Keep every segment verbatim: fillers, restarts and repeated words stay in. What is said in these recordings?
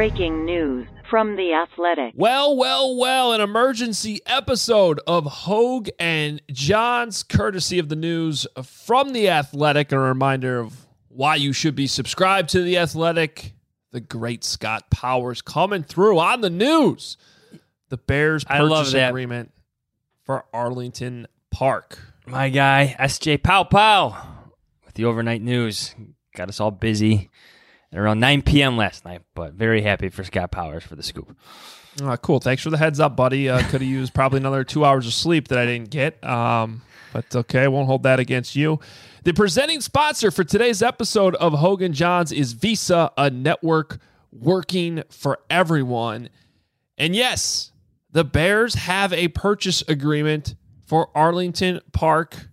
Breaking news from The Athletic. Well, well, well, an emergency episode of Hogue and Johns, courtesy of the news from The Athletic. A reminder of why you should be subscribed to The Athletic. The great Scott Powers coming through on the news. The Bears purchase agreement for Arlington Park. My guy, S J Pow Pow, with the overnight news. Got us all busy at around nine p.m. last night, but very happy for Scott Powers for the scoop. Uh, cool. Thanks for the heads up, buddy. Uh, could have used probably another two hours of sleep that I didn't get, um, but okay, I won't hold that against you. The presenting sponsor for today's episode of Hogue and Johns is Visa, a network working for everyone. And yes, the Bears have a purchase agreement for Arlington Park.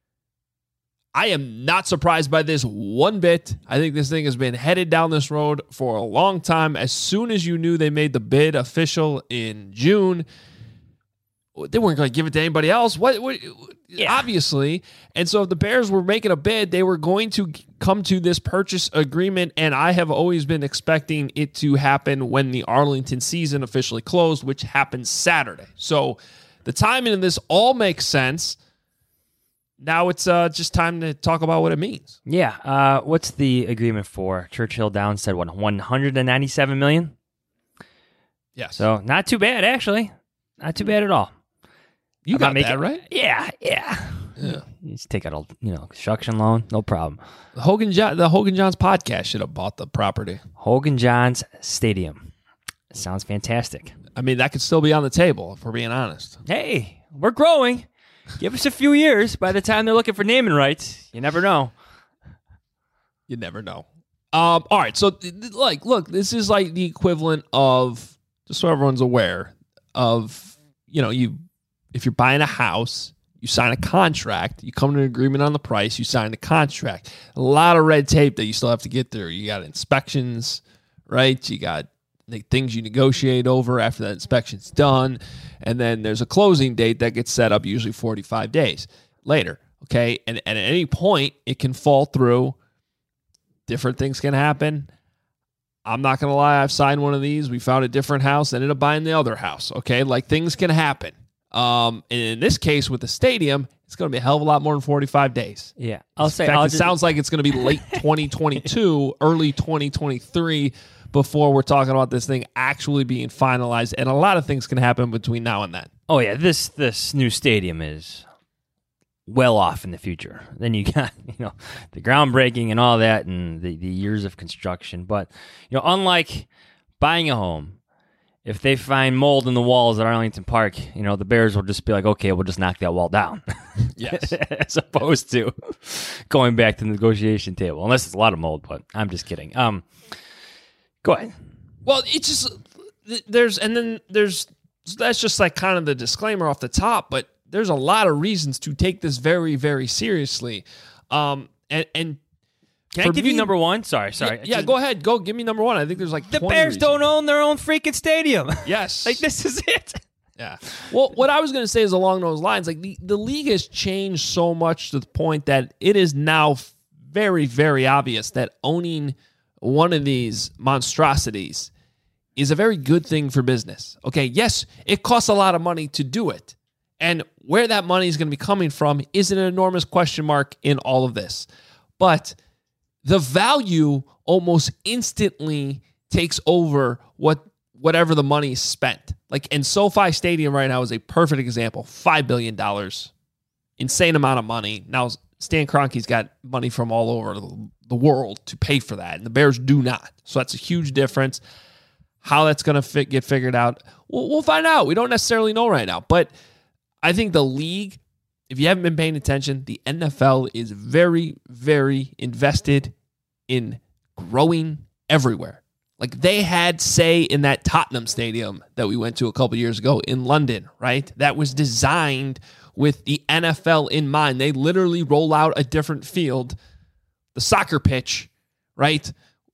I am not surprised by this one bit. I think this thing has been headed down this road for a long time. As soon as you knew they made the bid official in June, they weren't going to give it to anybody else. What? what yeah. Obviously. And so if the Bears were making a bid, they were going to come to this purchase agreement, and I have always been expecting it to happen when the Arlington season officially closed, which happens Saturday. So the timing of this all makes sense. Now it's uh, just time to talk about what it means. Yeah. Uh, what's the agreement for? Churchill Downs said, what, one hundred ninety-seven million dollars? Yes. So not too bad, actually. Not too bad at all. You got making, that, right? Yeah, yeah. Yeah. You just take out a you know construction loan, no problem. The Hogan John, the Hogan Johns podcast should have bought the property. Hogan Johns Stadium. It sounds fantastic. I mean, that could still be on the table, if we're being honest. Hey, we're growing. Give us a few years. By the time they're looking for naming rights, you never know. You never know. Um, all right, so like, look, this is like the equivalent of, just so everyone's aware, of, you know, you if you're buying a house, you sign a contract, you come to an agreement on the price, you sign the contract. A lot of red tape that you still have to get through. You got inspections, right? You got the things you negotiate over after that inspection's done. And then there's a closing date that gets set up usually forty-five days later, okay? And, and at any point, it can fall through. Different things can happen. I'm not going to lie, I've signed one of these. We found a different house, ended up buying the other house, okay? Like, things can happen. Um, and in this case, with the stadium, it's going to be a hell of a lot more than forty-five days. Yeah. I'll in say, fact, I'll it just... sounds like it's going to be late twenty twenty-two, early twenty twenty-three before we're talking about this thing actually being finalized. And a lot of things can happen between now and then. Oh, yeah. This this new stadium is well off in the future. Then you got, you know, the groundbreaking and all that and the, the years of construction. But, you know, unlike buying a home, if they find mold in the walls at Arlington Park, you know, the Bears will just be like, okay, we'll just knock that wall down. Yes. As opposed to going back to the negotiation table. Unless it's a lot of mold, but I'm just kidding. Um, Go ahead. Well, it's just, there's, and then there's, that's just like kind of the disclaimer off the top, but there's a lot of reasons to take this very, very seriously. Um, and, and Can I give me, you number one? Sorry, sorry. Yeah, yeah, go ahead. Go give me number one. I think there's like the Bears reasons. Don't own their own freaking stadium. Yes. Like, this is it. Yeah. Well, what I was going to say is along those lines, like the, the league has changed so much to the point that it is now very, very obvious that owning one of these monstrosities is a very good thing for business. Okay, yes, it costs a lot of money to do it. And where that money is going to be coming from is an enormous question mark in all of this. But the value almost instantly takes over what whatever the money is spent. Like, and SoFi Stadium right now is a perfect example. five billion dollars. Insane amount of money. Now, Stan Kroenke's got money from all over the world to pay for that, and the Bears do not. So that's a huge difference. How that's going to fit, get figured out, we'll, we'll find out. We don't necessarily know right now, but I think the league, if you haven't been paying attention, the N F L is very, very invested in growing everywhere. Like, they had say in that Tottenham stadium that we went to a couple years ago in London, right? That was designed with the N F L in mind. They literally roll out a different field, the soccer pitch, right,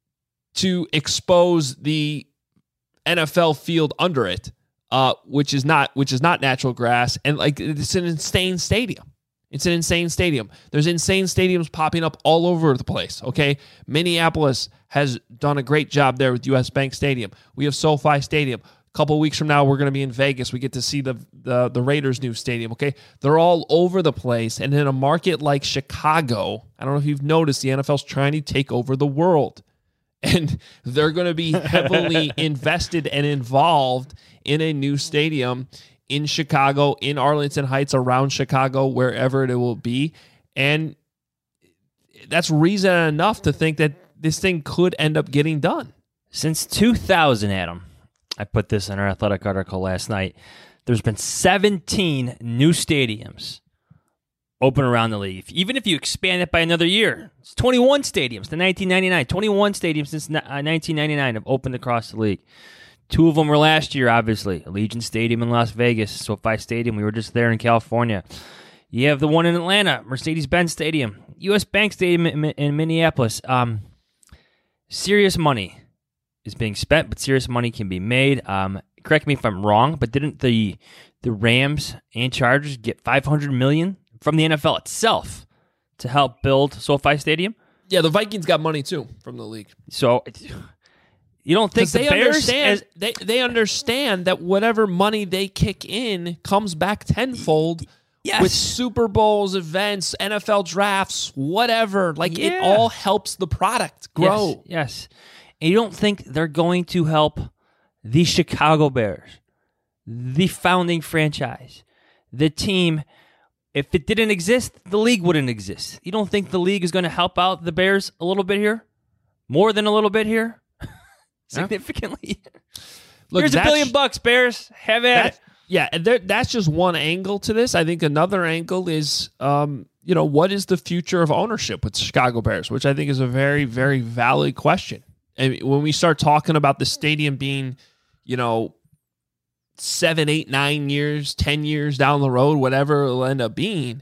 to expose the N F L field under it, uh, which is not which is not natural grass, and like it's an insane stadium. It's an insane stadium. There's insane stadiums popping up all over the place, okay? Minneapolis has done a great job there with U S Bank Stadium. We have SoFi Stadium. A couple of weeks from now, we're going to be in Vegas. We get to see the, the, the Raiders' new stadium, okay? They're all over the place. And in a market like Chicago, I don't know if you've noticed, the N F L's trying to take over the world. And they're going to be heavily invested and involved in a new stadium in Chicago, in Arlington Heights, around Chicago, wherever it will be. And that's reason enough to think that this thing could end up getting done. Since two thousand, Adam, I put this in our Athletic article last night, there's been seventeen new stadiums open around the league. Even if you expand it by another year, it's twenty-one stadiums to nineteen ninety-nine. twenty-one stadiums since nineteen ninety-nine have opened across the league. Two of them were last year, obviously. Allegiant Stadium in Las Vegas, SoFi Stadium. We were just there in California. You have the one in Atlanta, Mercedes-Benz Stadium, U S Bank Stadium in, in Minneapolis. Um, serious money is being spent, but serious money can be made. Um, correct me if I'm wrong, but didn't the the Rams and Chargers get five hundred million dollars from the N F L itself to help build SoFi Stadium? Yeah, the Vikings got money too from the league. So you don't think the they Bears understand, as, they they understand that whatever money they kick in comes back tenfold yes. with Super Bowls, events, N F L drafts, whatever. Like Yeah. it all helps the product grow. Yes, yes. And you don't think they're going to help the Chicago Bears, the founding franchise, the team. If it didn't exist, the league wouldn't exist. You don't think the league is going to help out the Bears a little bit here? More than a little bit here? Significantly? Look, Here's a that's- billion bucks, Bears. Have at That, it. yeah, and there, that's just one angle to this. I think another angle is, um, you know, what is the future of ownership with the Chicago Bears, which I think is a very, very valid question. And when we start talking about the stadium being, you know, seven, eight, nine years, ten years down the road, whatever it'll end up being,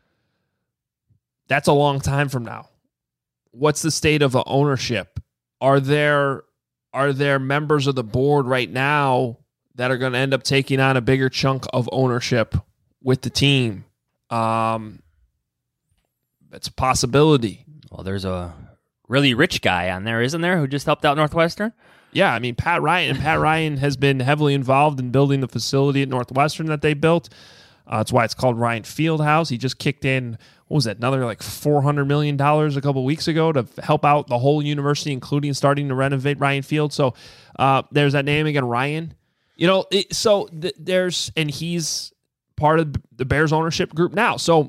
that's a long time from now. What's the state of ownership? Are there are there members of the board right now that are going to end up taking on a bigger chunk of ownership with the team? Um, that's a possibility. Well, there's a really rich guy on there, isn't there, who just helped out Northwestern? Yeah, I mean, Pat Ryan. And Pat Ryan has been heavily involved in building the facility at Northwestern that they built. Uh, that's why it's called Ryan Fieldhouse. He just kicked in, what was that, another like four hundred million dollars a couple weeks ago to help out the whole university, including starting to renovate Ryan Field. So uh, there's that name again, Ryan. You know, it, so th- there's, and he's part of the Bears ownership group now. So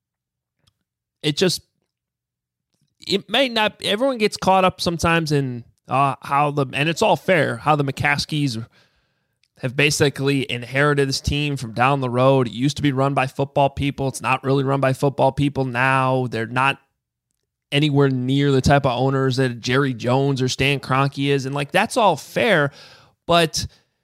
it just, it may not, everyone gets caught up sometimes in uh, how the, and it's all fair, how the McCaskies have basically inherited this team from down the road. It used to be run by football people. It's not really run by football people now. They're not anywhere near the type of owners that Jerry Jones or Stan Kroenke is. And like, that's all fair, but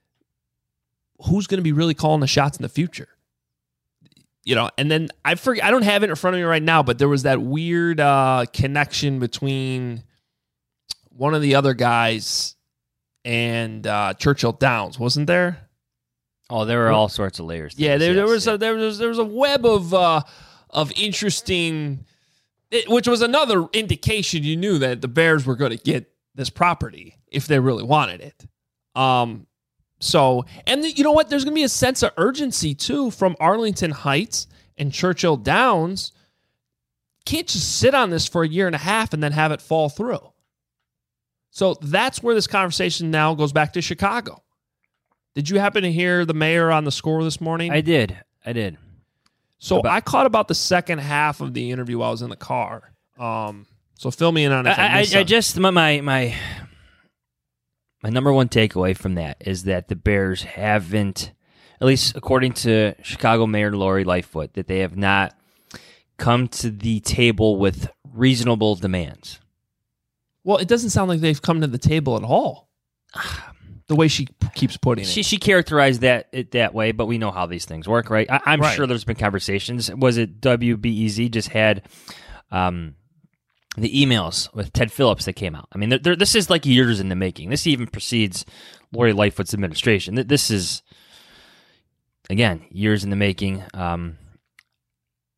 who's going to be really calling the shots in the future? You know, and then I forget, I don't have it in front of me right now, but there was that weird uh, connection between one of the other guys and uh, Churchill Downs, wasn't there? Oh, there were all sorts of layers. to Yeah, this, there, there yes, was yeah. a, there was there was a web of uh, of interesting, it, which was another indication you knew that the Bears were going to get this property if they really wanted it. Um, so, and the, you know what? There's going to be a sense of urgency too from Arlington Heights and Churchill Downs. Can't just sit on this for a year and a half and then have it fall through. So that's where this conversation now goes back to Chicago. Did you happen to hear the mayor on the score this morning? I did. I did. So About- I caught about the second half of the interview while I was in the car. Um, so fill me in on it. if I, I, I, missed I something. just my, my my my number one takeaway from that is that the Bears haven't, at least according to Chicago Mayor Lori Lightfoot, that they have not come to the table with reasonable demands. Well, it doesn't sound like they've come to the table at all. The way she p- keeps putting it. She she characterized that it that way, but we know how these things work, right? I, I'm Right. sure there's been conversations. Was it W B E Z just had um, the emails with Ted Phillips that came out? I mean, they're, they're, this is like years in the making. This even precedes Lori Lightfoot's administration. Th- This is, again, years in the making. Um,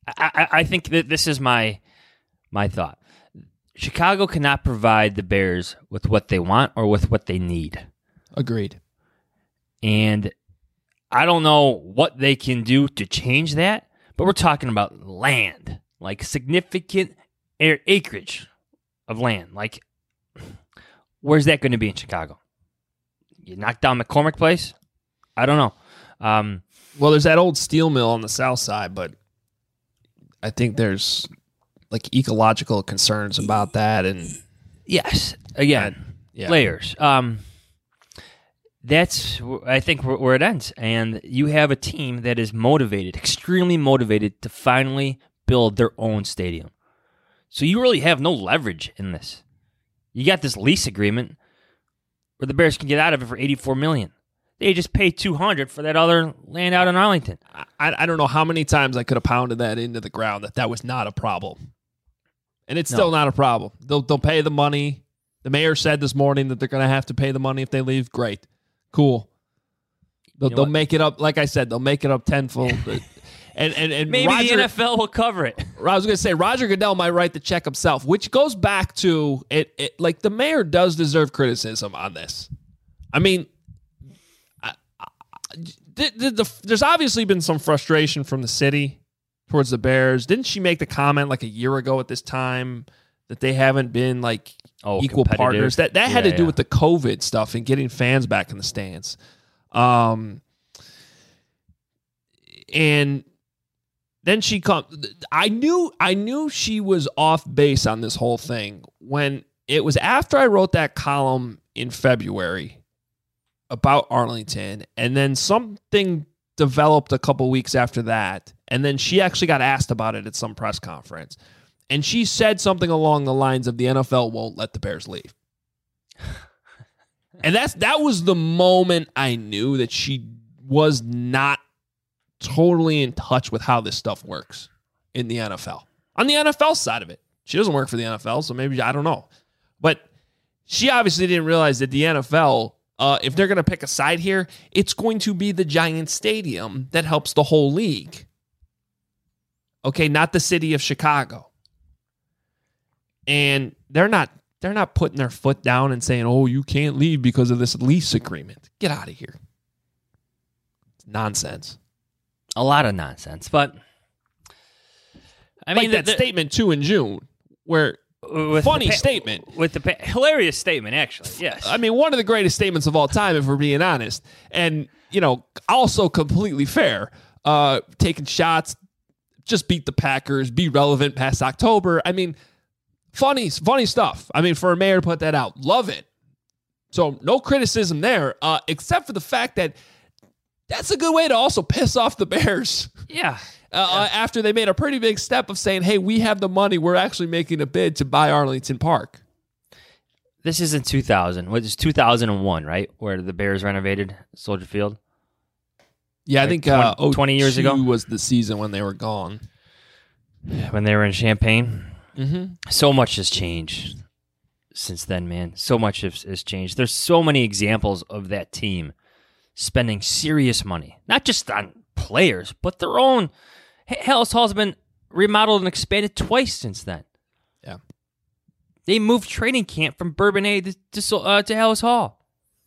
I, I, I think that this is my my thought. Chicago cannot provide the Bears with what they want or with what they need. Agreed. And I don't know what they can do to change that, but we're talking about land, like significant air acreage of land. Like, where's that going to be in Chicago? You knock down McCormick Place? I don't know. Um, well, there's that old steel mill on the south side, but I think there's like ecological concerns about that. And yes, again, yeah. layers. Um, that's, I think, where, where it ends. And you have a team that is motivated, extremely motivated, to finally build their own stadium. So you really have no leverage in this. You got this lease agreement where the Bears can get out of it for eighty-four million dollars. They just pay two hundred dollars for that other land out in Arlington. I, I don't know how many times I could have pounded that into the ground that that was not a problem. And it's still No. not a problem. They'll they'll pay the money. The mayor said this morning that they're going to have to pay the money if they leave. Great. Cool. They'll, You know they'll what? make it up. Like I said, they'll make it up tenfold. and and, and Maybe Roger, the N F L will cover it. I was going to say, Roger Goodell might write the check himself, which goes back to it, it. Like, the mayor does deserve criticism on this. I mean, I, I, the, the, the, there's obviously been some frustration from the city towards the Bears. Didn't she make the comment like a year ago at this time that they haven't been like Oh, equal competitive. partners? That that had Yeah, to do yeah. with the COVID stuff and getting fans back in the stands. Um, and then she come. I knew I knew she was off base on this whole thing when it was after I wrote that column in February about Arlington, and then something developed a couple weeks after that, and then she actually got asked about it at some press conference, and she said something along the lines of the N F L won't let the Bears leave. And that's that was the moment I knew that she was not totally in touch with how this stuff works in the N F L. On the N F L side of it, she doesn't work for the N F L, so maybe, I don't know. But she obviously didn't realize that the N F L, uh, if they're going to pick a side here, it's going to be the giant stadium that helps the whole league. Okay, not the city of Chicago. And they're not they're not putting their foot down and saying, "Oh, you can't leave because of this lease agreement." Get out of here. It's nonsense. A lot of nonsense, but I Like mean that the- the- statement too in June, where with funny the pa- statement. with the pa- hilarious statement, actually. Yes, I mean, one of the greatest statements of all time, if we're being honest, and you know, also completely fair. Uh, taking shots, just beat the Packers, be relevant past October. I mean, funny, funny stuff. I mean, for a mayor to put that out, love it. So no criticism there, uh, except for the fact that that's a good way to also piss off the Bears. yeah. Uh, after they made a pretty big step of saying, hey, we have the money. We're actually making a bid to buy Arlington Park. This is in two thousand. What is two thousand one, right? Where the Bears renovated Soldier Field. Yeah, I Like think twenty uh, oh twenty years ago? was the season when they were gone. When they were in Champaign. Mm-hmm. So much has changed since then, man. So much has, has changed. There's so many examples of that team spending serious money, not just on players, but their own. Hallis Hall's been remodeled and expanded twice since then. Yeah. They moved training camp from Bourbonnais to to, Sol- uh, to Hallis Hall.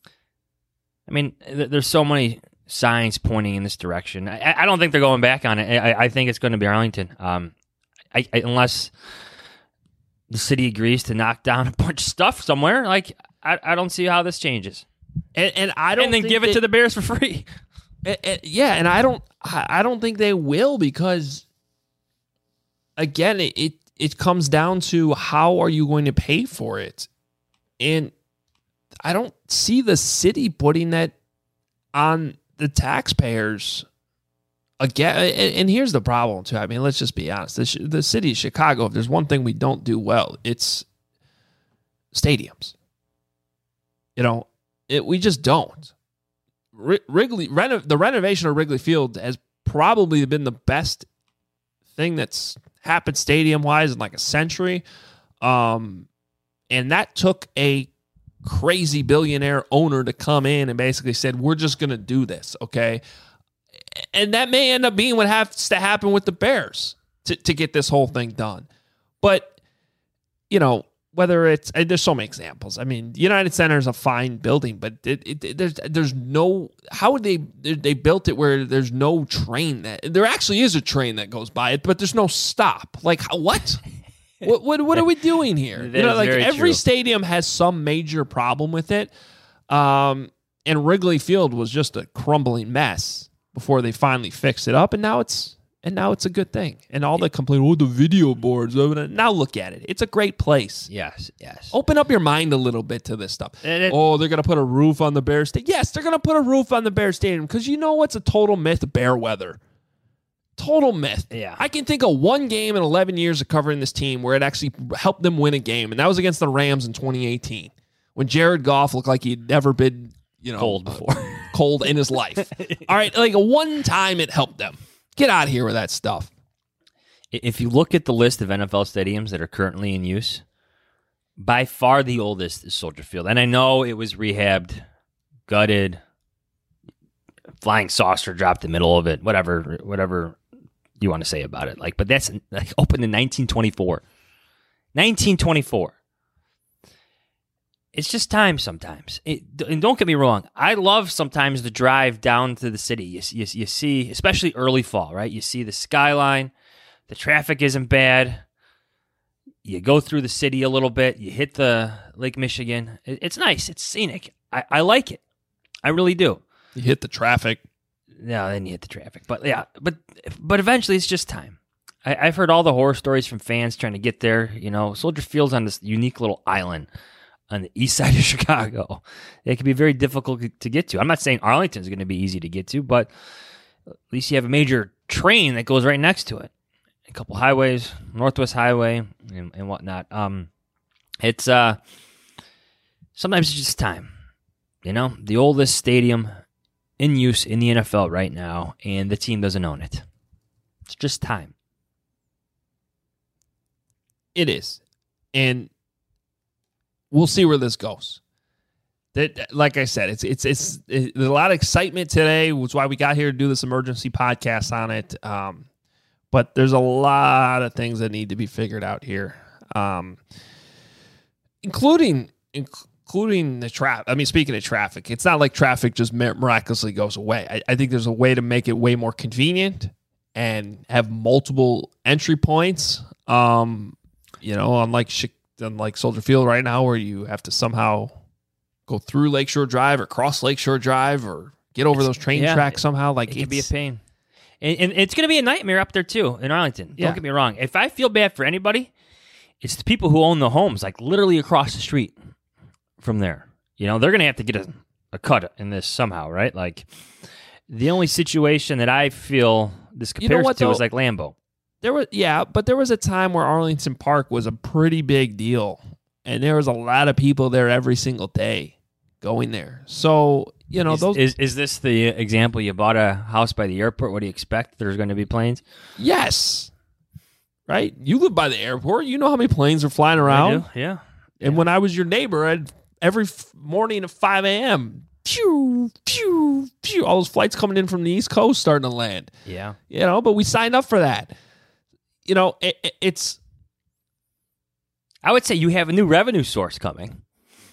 I mean, th- there's so many signs pointing in this direction. I, I don't think they're going back on it. I, I think it's going to be Arlington, um, I, I, unless the city agrees to knock down a bunch of stuff somewhere. Like, I, I don't see how this changes. And, and I don't And then think give it they- to the Bears for free. Uh, uh, yeah, and I don't, I I don't think they will because, again, it, it it comes down to how are you going to pay for it, and I don't see the city putting that on the taxpayers. Again, and, and here's the problem too. I mean, let's just be honest. The, the city of Chicago, if there's one thing we don't do well, it's stadiums. You know, it, we just don't. Wrigley, reno, the renovation of Wrigley Field has probably been the best thing that's happened stadium-wise in like a century. Um, and that took a crazy billionaire owner to come in and basically said, we're just going to do this, okay? And that may end up being what has to happen with the Bears. to, to get this whole thing done. But, you know, whether it's, and there's so many examples. I mean, United Center is a fine building, but it, it, it, there's there's no, how would they, they built it where there's no train that, there actually is a train that goes by it, but there's no stop. Like, how, what? what, what? What are we doing here? That You know, is like very every true. stadium has some major problem with it. Um, and Wrigley Field was just a crumbling mess before they finally fixed it up, and now it's and now it's a good thing. And all the complaint, oh, the video boards. Now look at it; it's a great place. Yes, yes. Open up your mind a little bit to this stuff. And it- oh, they're gonna put a roof on the Bear Stadium. Yes, they're gonna put a roof on the Bear Stadium because you know what's a total myth? Bear weather. Total myth. Yeah. I can think of one game in eleven years of covering this team where it actually helped them win a game, and that was against the Rams in twenty eighteen when Jared Goff looked like he'd never been, you know, Cold before. cold in his life. All right, like one time it helped them. Get out of here with that stuff. If you look at the list of N F L stadiums that are currently in use, by far the oldest is Soldier Field. And I know it was rehabbed, gutted, flying saucer dropped in the middle of it, whatever whatever you want to say about it. Like, but that's like opened in nineteen twenty-four. nineteen twenty-four. It's just time sometimes. It, and don't get me wrong. I love sometimes the drive down to the city. You, you, you see, especially early fall, right? You see the skyline. The traffic isn't bad. You go through the city a little bit. You hit the Lake Michigan. It, it's nice. It's scenic. I, I like it. I really do. You hit the traffic. No, then you hit the traffic. But yeah, but but eventually it's just time. I, I've heard all the horror stories from fans trying to get there. You know, Soldier Field's on this unique little island on the east side of Chicago. It can be very difficult to get to. I'm not saying Arlington's going to be easy to get to, but at least you have a major train that goes right next to it. A couple highways, Northwest Highway, and, and whatnot. Um, it's uh, sometimes it's just time. You know, the oldest stadium in use in the N F L right now, and the team doesn't own it. It's just time. It is. And we'll see where this goes. That, like I said, it's it's it's it, there's a lot of excitement today, which is why we got here to do this emergency podcast on it. Um, but there's a lot of things that need to be figured out here, um, including including the traffic. I mean, speaking of traffic, it's not like traffic just miraculously goes away. I, I think there's a way to make it way more convenient and have multiple entry points. Um, you know, unlike unlike Soldier Field right now, where you have to somehow go through Lakeshore Drive or cross Lakeshore Drive or get over It's- those train yeah, tracks somehow. Like It can be a it's- pain. And, and it's going to be a nightmare up there, too, in Arlington. Yeah. Don't get me wrong. If I feel bad for anybody, it's the people who own the homes, like literally across the street from there. You know, they're going to have to get a, a cut in this somehow, right? Like, the only situation that I feel this You know compares what, to is though? like Lambeau. There was yeah, but there was a time where Arlington Park was a pretty big deal, and there was a lot of people there every single day going there. So you know Is, those. is, is this the example? You bought a house by the airport. What do you expect? There's going to be planes? Yes, right. You live by the airport. You know how many planes are flying around. I do, yeah. And when I was your neighbor, I'd every f- morning at five a.m. Pew, pew, pew. All those flights coming in from the East Coast starting to land. Yeah. You know, but we signed up for that. You know, it, it, it's I would say you have a new revenue source coming.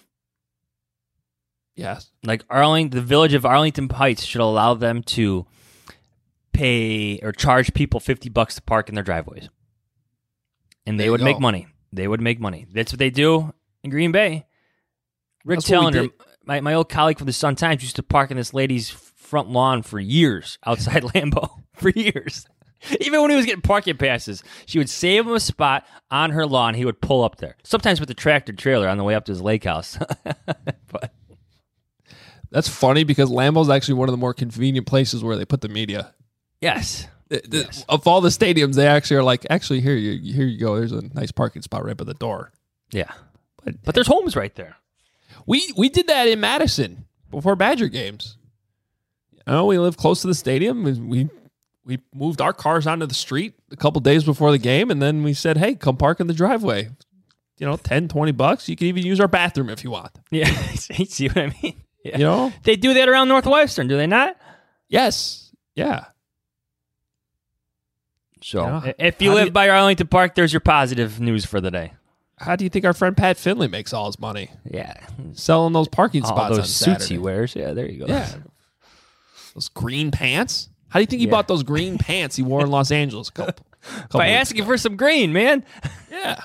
yes. Like Arlington, the village of Arlington Heights should allow them to pay or charge people fifty bucks to park in their driveways. And they There you would make go. money. They would make money. That's what they do in Green Bay. Rick That's what we Tellender, did. my, my old colleague from the Sun Times, used to park in this lady's front lawn for years outside Lambeau. For years. Even when he was getting parking passes, she would save him a spot on her lawn. He would pull up there. Sometimes with the tractor trailer on the way up to his lake house. But That's funny because Lambeau's actually one of the more convenient places where they put the media. yes. The- the- Yes. Of all the stadiums, they actually are like, actually, here you here you go. There's a nice parking spot right by the door. Yeah. But, But there's homes right there. we we did that in Madison before Badger games. You know, we live close to the stadium. And we we moved our cars onto the street a couple days before the game, and then we said, hey, come park in the driveway. You know, ten, twenty bucks. You can even use our bathroom if you want. Yeah. See what I mean? Yeah. You know? They do that around Northwestern, do they not? Yes. Yeah. So Yeah. if you How do live you- by Arlington Park, there's your positive news for the day. How do you think our friend Pat Finley makes all his money? Yeah. Selling those parking All spots on those suits Saturday. he wears. Yeah, there you go. Yeah. Those green pants? How do you think he Yeah. bought those green pants he wore in Los Angeles a couple, couple By weeks asking ago? for some green, man. Yeah.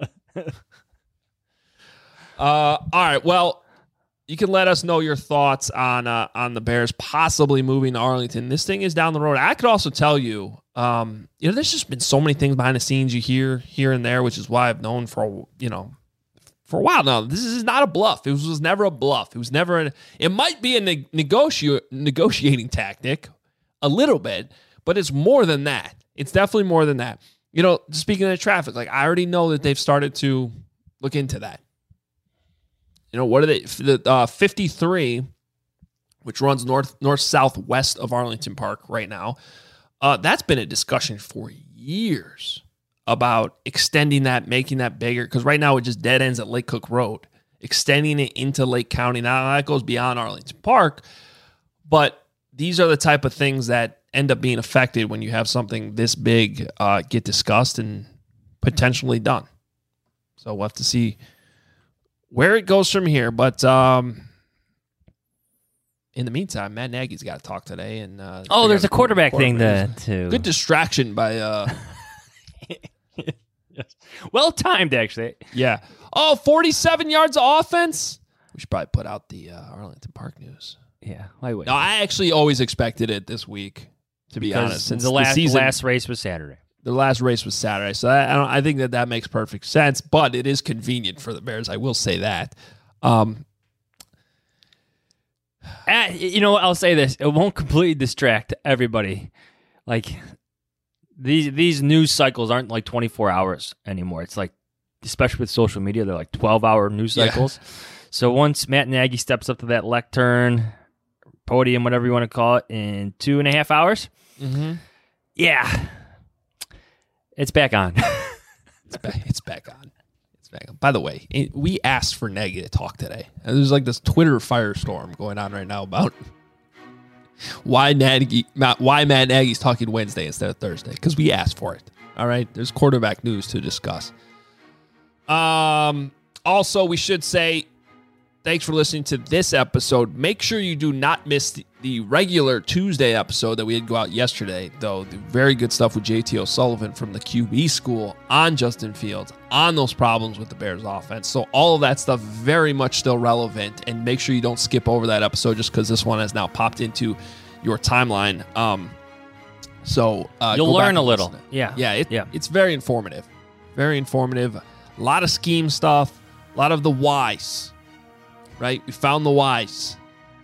uh, all right. Well, you can let us know your thoughts on uh, on the Bears possibly moving to Arlington. This thing is down the road. I could also tell you, um, you know, there's just been so many things behind the scenes you hear here and there, which is why I've known for you know for a while now. This is not a bluff. It was, was never a bluff. It was never. An, it might be a ne- negoti- negotiating tactic, a little bit, but it's more than that. It's definitely more than that. You know, speaking of the traffic, like I already know that they've started to look into that. You know, what are they? The uh, fifty-three, which runs north, north, southwest of Arlington Park right now. Uh, that's been a discussion for years about extending that, making that bigger. Because right now it just dead ends at Lake Cook Road. Extending it into Lake County. Now that goes beyond Arlington Park. But these are the type of things that end up being affected when you have something this big uh, get discussed and potentially done. So we'll have to see where it goes from here. But um, in the meantime, Matt Nagy's got to talk today. And uh, Oh, there's a figure out quarterback thing quarterback. to, to Good distraction by, uh, yes. Well timed, actually. yeah. Oh, forty-seven yards of offense. We should probably put out the uh, Arlington Park news. Yeah, why would No, I actually always expected it this week, to be because honest. Since the last season, last race was Saturday. the last race was Saturday. So I, I, don't, I think that that makes perfect sense, but it is convenient for the Bears. I will say that. Um, Uh, you know, I'll say this: it won't completely distract everybody. Like these these news cycles aren't like twenty-four hours anymore. It's like, especially with social media, they're like twelve hour news Yeah. cycles. So once Matt Nagy steps up to that lectern, podium, whatever you want to call it, in two and a half hours, mm-hmm. yeah, it's back on. it's, back, it's back on. It's back on. By the way, it, we asked for Nagy to talk today. And there's like this Twitter firestorm going on right now about why Nagy, Matt, why Matt Nagy's talking Wednesday instead of Thursday, because we asked for it. All right, there's quarterback news to discuss. Um. Also, we should say thanks for listening to this episode. Make sure you do not miss the, the regular Tuesday episode that we had go out yesterday, though. The very good stuff with J T O'Sullivan from the Q B school on Justin Fields, on those problems with the Bears offense. So all of that stuff very much still relevant, and make sure you don't skip over that episode just because this one has now popped into your timeline. Um, so uh, You'll go back learn a and little. listen. Yeah. Yeah, it, Yeah. it's very informative. Very informative. A lot of scheme stuff, a lot of the whys, right? We found the whys.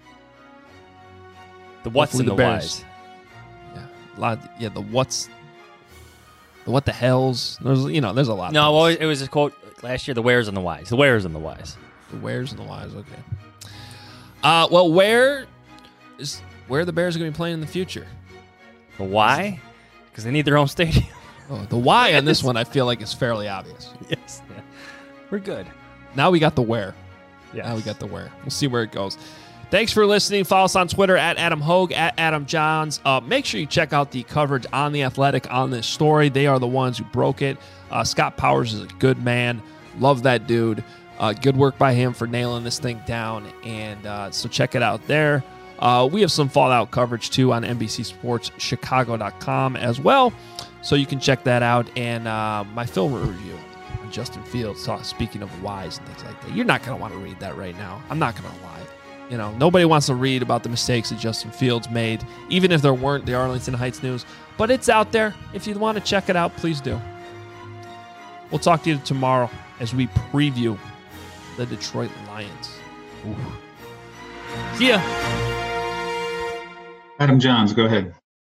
The what's Hopefully and the, the Bears. whys. Yeah, a lot. Of, yeah, the what's, the what the hells. There's you know, there's a lot. No, of well, things. it was a quote last year: the wheres and the whys. The wheres and the whys. The wheres and the whys. Okay. Uh, well, where is where the Bears are going to be playing in the future? The why? Because they need their own stadium. Oh, the why on this one, I feel like is fairly obvious. Yes. Yeah. We're good. Now we got the where. Yeah. Now we got the where. We'll see where it goes. Thanks for listening. Follow us on Twitter at Adam Hogue, at Adam Johns. Uh, make sure you check out the coverage on The Athletic on this story. They are the ones who broke it. Uh, Scott Powers is a good man. Love that dude. Uh, good work by him for nailing this thing down. And uh, so check it out there. Uh, we have some Fallout coverage, too, on N B C Sports Chicago dot com as well. So you can check that out. And uh, my film review on Justin Fields, uh, speaking of whys and things like that. You're not going to want to read that right now. I'm not going to lie. You know, nobody wants to read about the mistakes that Justin Fields made, even if there weren't the Arlington Heights news. But it's out there. If you want to check it out, please do. We'll talk to you tomorrow as we preview the Detroit Lions. Ooh. See ya. Adam Johns, go ahead.